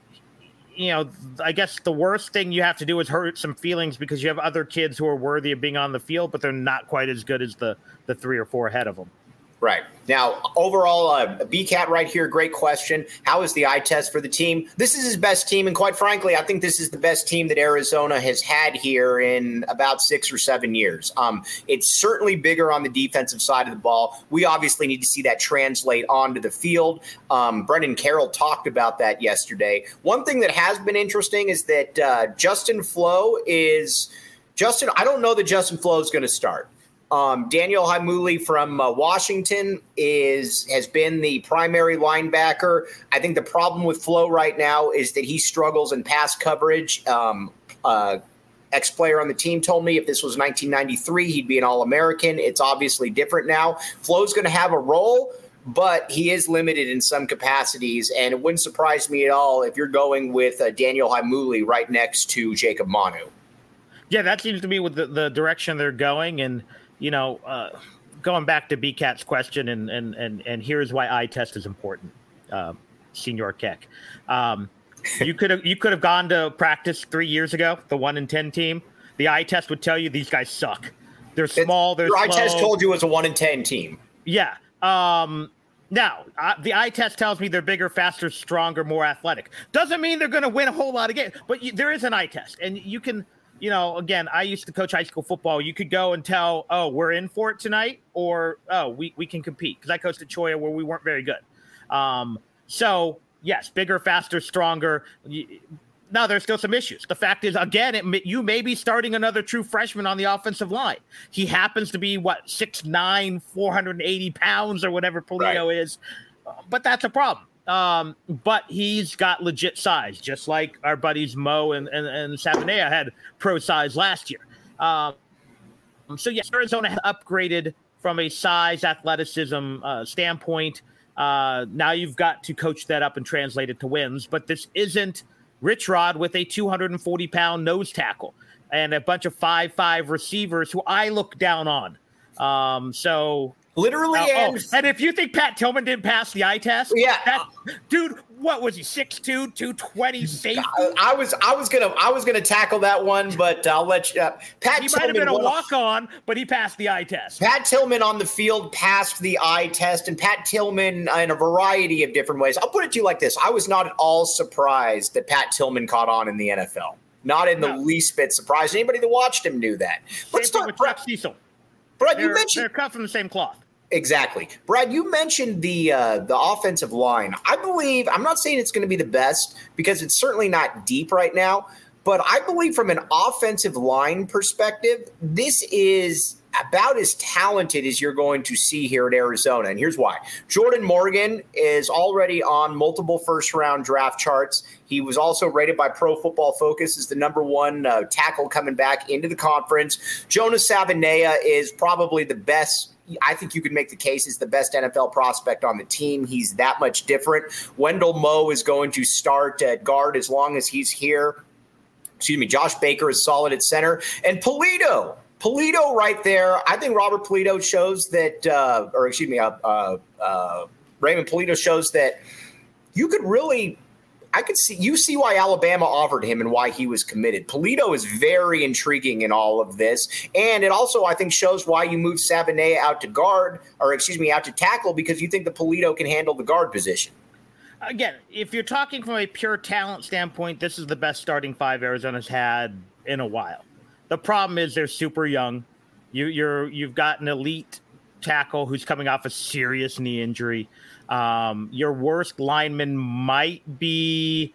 S2: you know, I guess the worst thing you have to do is hurt some feelings because you have other kids who are worthy of being on the field, but they're not quite as good as the the three or four ahead of them.
S1: Right. Now, overall, uh, B-Cat right here, great question. How is the eye test for the team? This is his best team, and quite frankly, I think this is the best team that Arizona has had here in about six or seven years. Um, it's certainly bigger on the defensive side of the ball. We obviously need to see that translate onto the field. Um, Brendan Carroll talked about that yesterday. One thing that has been interesting is that uh, Justin Flo is – Justin, I don't know that Justin Flo is going to start. Um, Daniel Haimuli from uh, Washington is has been the primary linebacker. I think the problem with Flo right now is that he struggles in pass coverage. Um, uh, ex-player on the team told me if this was nineteen ninety-three, he'd be an All-American. It's obviously different now. Flo's going to have a role, but he is limited in some capacities, and it wouldn't surprise me at all if you're going with uh, Daniel Haimuli right next to Jacob Manu.
S2: Yeah, that seems to be with the, the direction they're going. And, you know, uh, going back to B CAT's question, and, and, and, and here's why eye test is important, uh, Senior Keck. Um, you could have you could have gone to practice three years ago, the one in ten team. The eye test would tell you these guys suck. They're small. They're
S1: Your
S2: slow.
S1: eye test told you it was a one in ten team.
S2: Yeah. Um, now, uh, the eye test tells me they're bigger, faster, stronger, more athletic. Doesn't mean they're going to win a whole lot of games, but you, there is an eye test. And you can, you know, again, I used to coach high school football. You could go and tell, oh, we're in for it tonight, or, oh, we, we can compete. Because I coached at Choya where we weren't very good. Um, so, yes, bigger, faster, stronger. Now, there's still some issues. The fact is, again, it, you may be starting another true freshman on the offensive line. He happens to be, what, six nine, four hundred eighty pounds or whatever Polito right. is. But that's a problem. Um, but he's got legit size, just like our buddies Mo and, and, and Savanea had pro size last year. Um, so, yes, Arizona has upgraded from a size, athleticism uh, standpoint. Uh, now you've got to coach that up and translate it to wins. But this isn't Rich Rod with a two hundred forty pound nose tackle and a bunch of five five receivers who I look down on. Um, so
S1: literally,
S2: uh,
S1: and,
S2: oh, and if you think Pat Tillman didn't pass the eye test,
S1: yeah,
S2: that, dude, what was he, six two, two twenty safety?
S1: I, I was, I was gonna, I was gonna tackle that one, but I'll let you. Uh, Pat
S2: he
S1: Tillman
S2: might have been a
S1: won,
S2: walk on, but he passed the eye test.
S1: Pat Tillman on the field passed the eye test, and Pat Tillman uh, in a variety of different ways. I'll put it to you like this: I was not at all surprised that Pat Tillman caught on in the N F L. Not in the no. least bit surprised. Anybody that watched him knew that. Let's
S2: Same
S1: start
S2: with Brad Cecil.
S1: Brad,
S2: they're,
S1: you mentioned
S2: they're cut from the same cloth.
S1: Exactly. Brad, you mentioned the uh, the offensive line. I believe, I'm not saying it's going to be the best because it's certainly not deep right now, but I believe from an offensive line perspective, this is about as talented as you're going to see here at Arizona. And here's why. Jordan Morgan is already on multiple first-round draft charts. He was also rated by Pro Football Focus as the number one uh, tackle coming back into the conference. Jonas Savanea is probably the best. I think you could make the case he's the best N F L prospect on the team. He's that much different. Wendell Moe is going to start at guard as long as he's here. Excuse me. Josh Baker is solid at center. And Polito. Polito right there. I think Robert Polito shows that, uh, or excuse me, uh, uh, uh, Raymond Polito shows that you could really – I could see you see why Alabama offered him and why he was committed. Polito is very intriguing in all of this. And it also, I think, shows why you moved Savanea out to guard, or excuse me, out to tackle, because you think that Polito can handle the guard position.
S2: Again, if you're talking from a pure talent standpoint, this is the best starting five Arizona's had in a while. The problem is they're super young. You, you're, you've got an elite tackle who's coming off a serious knee injury. Um, your worst lineman might be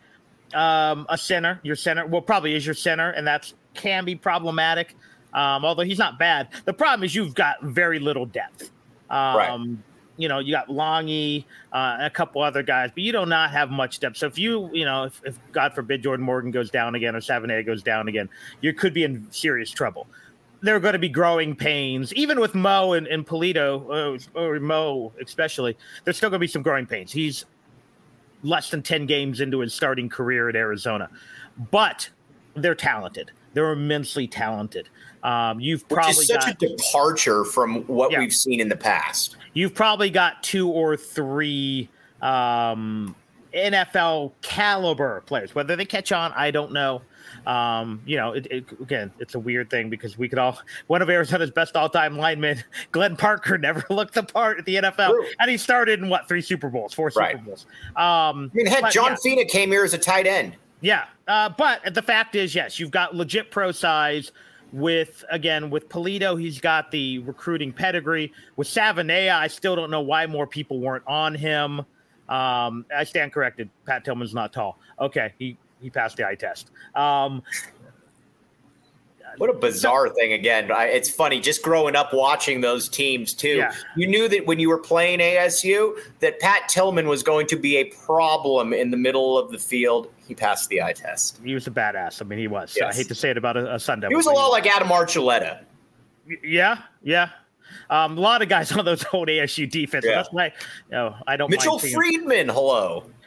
S2: um, a center. Your center, well, probably is your center, and that's can be problematic. Um, although he's not bad. The problem is you've got very little depth. Um,
S1: right.
S2: You know, you got Longy, uh, and a couple other guys, but you do not have much depth. So if you, you know, if, if God forbid Jordan Morgan goes down again or Savanea goes down again, you could be in serious trouble. There are going to be growing pains, even with Mo and, and Polito, uh, or Mo especially. There's still going to be some growing pains. He's less than ten games into his starting career at Arizona, but they're talented. They're immensely talented. Um, you've
S1: Which
S2: probably
S1: is such
S2: got,
S1: a departure from what
S2: yeah.
S1: we've seen in the past.
S2: You've probably got two or three um, N F L caliber players. Whether they catch on, I don't know. Um, you know, it, it, again, it's a weird thing because we could all, one of Arizona's best all-time linemen, Glenn Parker, never looked the part at the N F L. True. And he started in what, three Super Bowls, four Super
S1: right.
S2: Bowls. Um,
S1: I mean, heck,
S2: but,
S1: John
S2: yeah.
S1: Fina came here as a tight end.
S2: Yeah. Uh, but the fact is, yes, you've got legit pro size with, again, with Polito, he's got the recruiting pedigree. With Savanea, I still don't know why more people weren't on him. Um, I stand corrected. Pat Tillman's not tall. Okay. He, He passed the eye test. Um,
S1: what a bizarre so, thing. Again, I, it's funny just growing up watching those teams too.
S2: Yeah.
S1: You knew that when you were playing A S U that Pat Tillman was going to be a problem in the middle of the field. He passed the eye test.
S2: He was a badass. I mean, he was.
S1: Yes.
S2: I hate to say it about a, a Sun Devil.
S1: He was a lot like Adam Archuleta.
S2: Yeah, yeah. Um, a lot of guys on those old A S U defenses.
S1: Yeah.
S2: That's why you know, I don't
S1: Mitchell
S2: mind seeing
S1: Friedman, hello.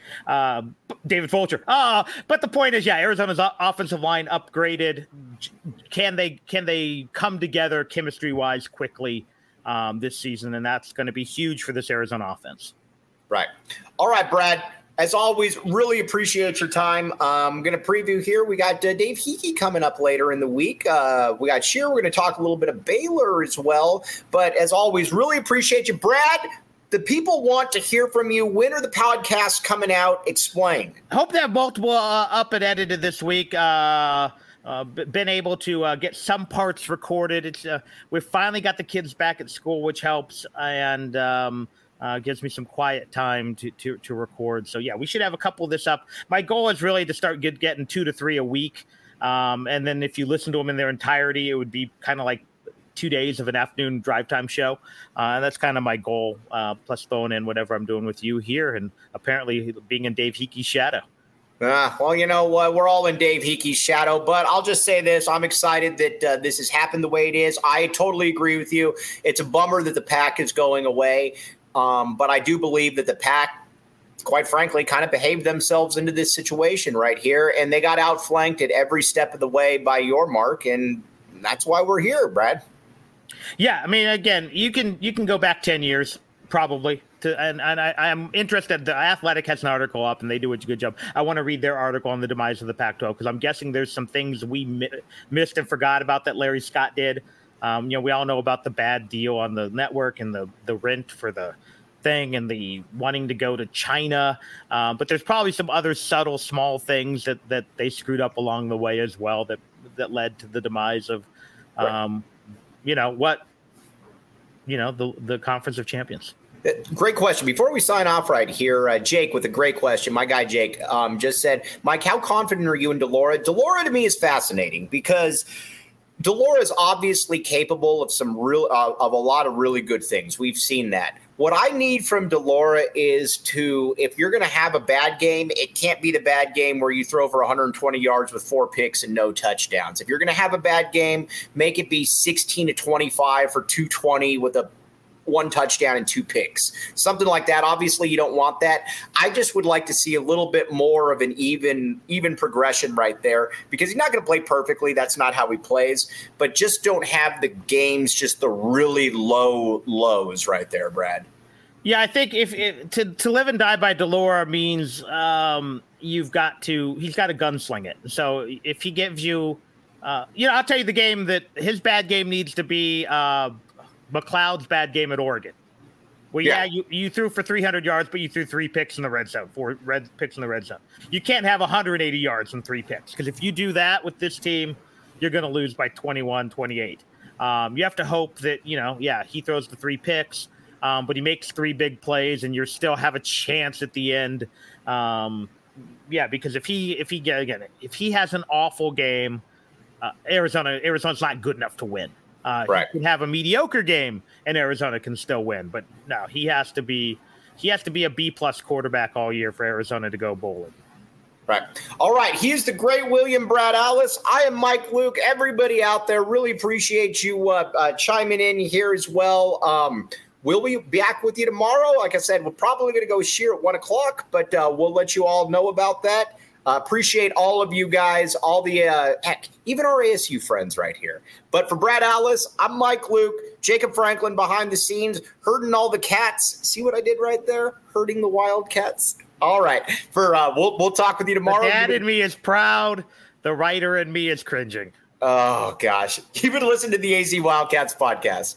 S2: Uh, David Fulcher. Uh, but the point is, yeah, Arizona's offensive line upgraded. Can they can they come together chemistry wise quickly um, this season? And that's going to be huge for this Arizona offense.
S1: Right. All right, Brad. As always, really appreciate your time. I'm going to preview here. We got uh, Dave Hickey coming up later in the week. Uh, we got Shear. We're going to talk a little bit of Baylor as well. But as always, really appreciate you. Brad, the people want to hear from you. When are the podcasts coming out? Explain.
S2: I hope they have multiple uh, up and edited this week. Uh, uh, been able to uh, get some parts recorded. It's uh, we've finally got the kids back at school, which helps. And um Uh, gives me some quiet time to, to to record. So, yeah, we should have a couple of this up. My goal is really to start get, getting two to three a week. Um, and then if you listen to them in their entirety, it would be kind of like two days of an afternoon drive time show. Uh, and that's kind of my goal, uh, plus throwing in whatever I'm doing with you here and apparently being in Dave Hickey's shadow.
S1: Uh, well, you know what? Uh, we're all in Dave Hickey's shadow, but I'll just say this. I'm excited that uh, this has happened the way it is. I totally agree with you. It's a bummer that the Pac is going away. Um, but I do believe that the Pac, quite frankly, kind of behaved themselves into this situation right here, and they got outflanked at every step of the way by your mark, and that's why we're here, Brad.
S2: Yeah, I mean, again, you can you can go back ten years probably, to, and and I, I'm interested. The Athletic has an article up, and they do a good job. I want to read their article on the demise of the Pac twelve because I'm guessing there's some things we mi- missed and forgot about that Larry Scott did. Um, you know, we all know about the bad deal on the network and the, the rent for the thing and the wanting to go to China. Uh, but there's probably some other subtle, small things that, that they screwed up along the way as well that, that led to the demise of, um, right. you know, what, you know, the, the Conference of Champions.
S1: Great question. Before we sign off right here, uh, Jake with a great question. My guy Jake um, just said, Mike, how confident are you in Delora? Delora to me is fascinating because Delora is obviously capable of some real uh, of a lot of really good things. We've seen that. What I need from Delora is to, if you're going to have a bad game, it can't be the bad game where you throw for one hundred twenty yards with four picks and no touchdowns. If you're going to have a bad game, make it be sixteen to twenty-five for two twenty with a one touchdown and two picks, something like that. Obviously you don't want that. I just would like to see a little bit more of an even, even progression right there because he's not going to play perfectly. That's not how he plays, but just don't have the games, just the really low lows right there, Brad.
S2: Yeah. I think if, if to, to live and die by Delora means um, you've got to, he's got to gunsling it. So if he gives you, uh, you know, I'll tell you the game that his bad game needs to be, uh, McLeod's bad game at Oregon. Well, yeah, yeah you, you threw for three hundred yards, but you threw three picks in the red zone, four red picks in the red zone. You can't have one hundred eighty yards and three picks because if you do that with this team, you're going to lose by twenty-one, twenty-eight. Um, you have to hope that, you know, yeah, he throws the three picks, um, but he makes three big plays and you still have a chance at the end. Um, yeah, because if he, if he, again, if he has an awful game, uh, Arizona, Arizona's not good enough to win. Uh, right. He can have a mediocre game and Arizona can still win, but no, he has to be he has to be a B plus quarterback all year for Arizona to go bowling.
S1: Right. All right. He is the great William Brad Allis. I am Mike Luke. Everybody out there, really appreciate you uh, uh, chiming in here as well. Um, we'll be back with you tomorrow. Like I said, we're probably going to go sheer at one o'clock, but uh, we'll let you all know about that. Uh, appreciate all of you guys, all the, uh, heck, even our A S U friends right here. But for Brad Allis, I'm Mike Luke, Jacob Franklin behind the scenes, herding all the cats. See what I did right there? Herding the Wildcats. All right. For uh, we'll we'll talk with you tomorrow.
S2: The dad in me is proud. The writer in me is cringing.
S1: Oh, gosh. You've been listening to the A Z Wildcats podcast.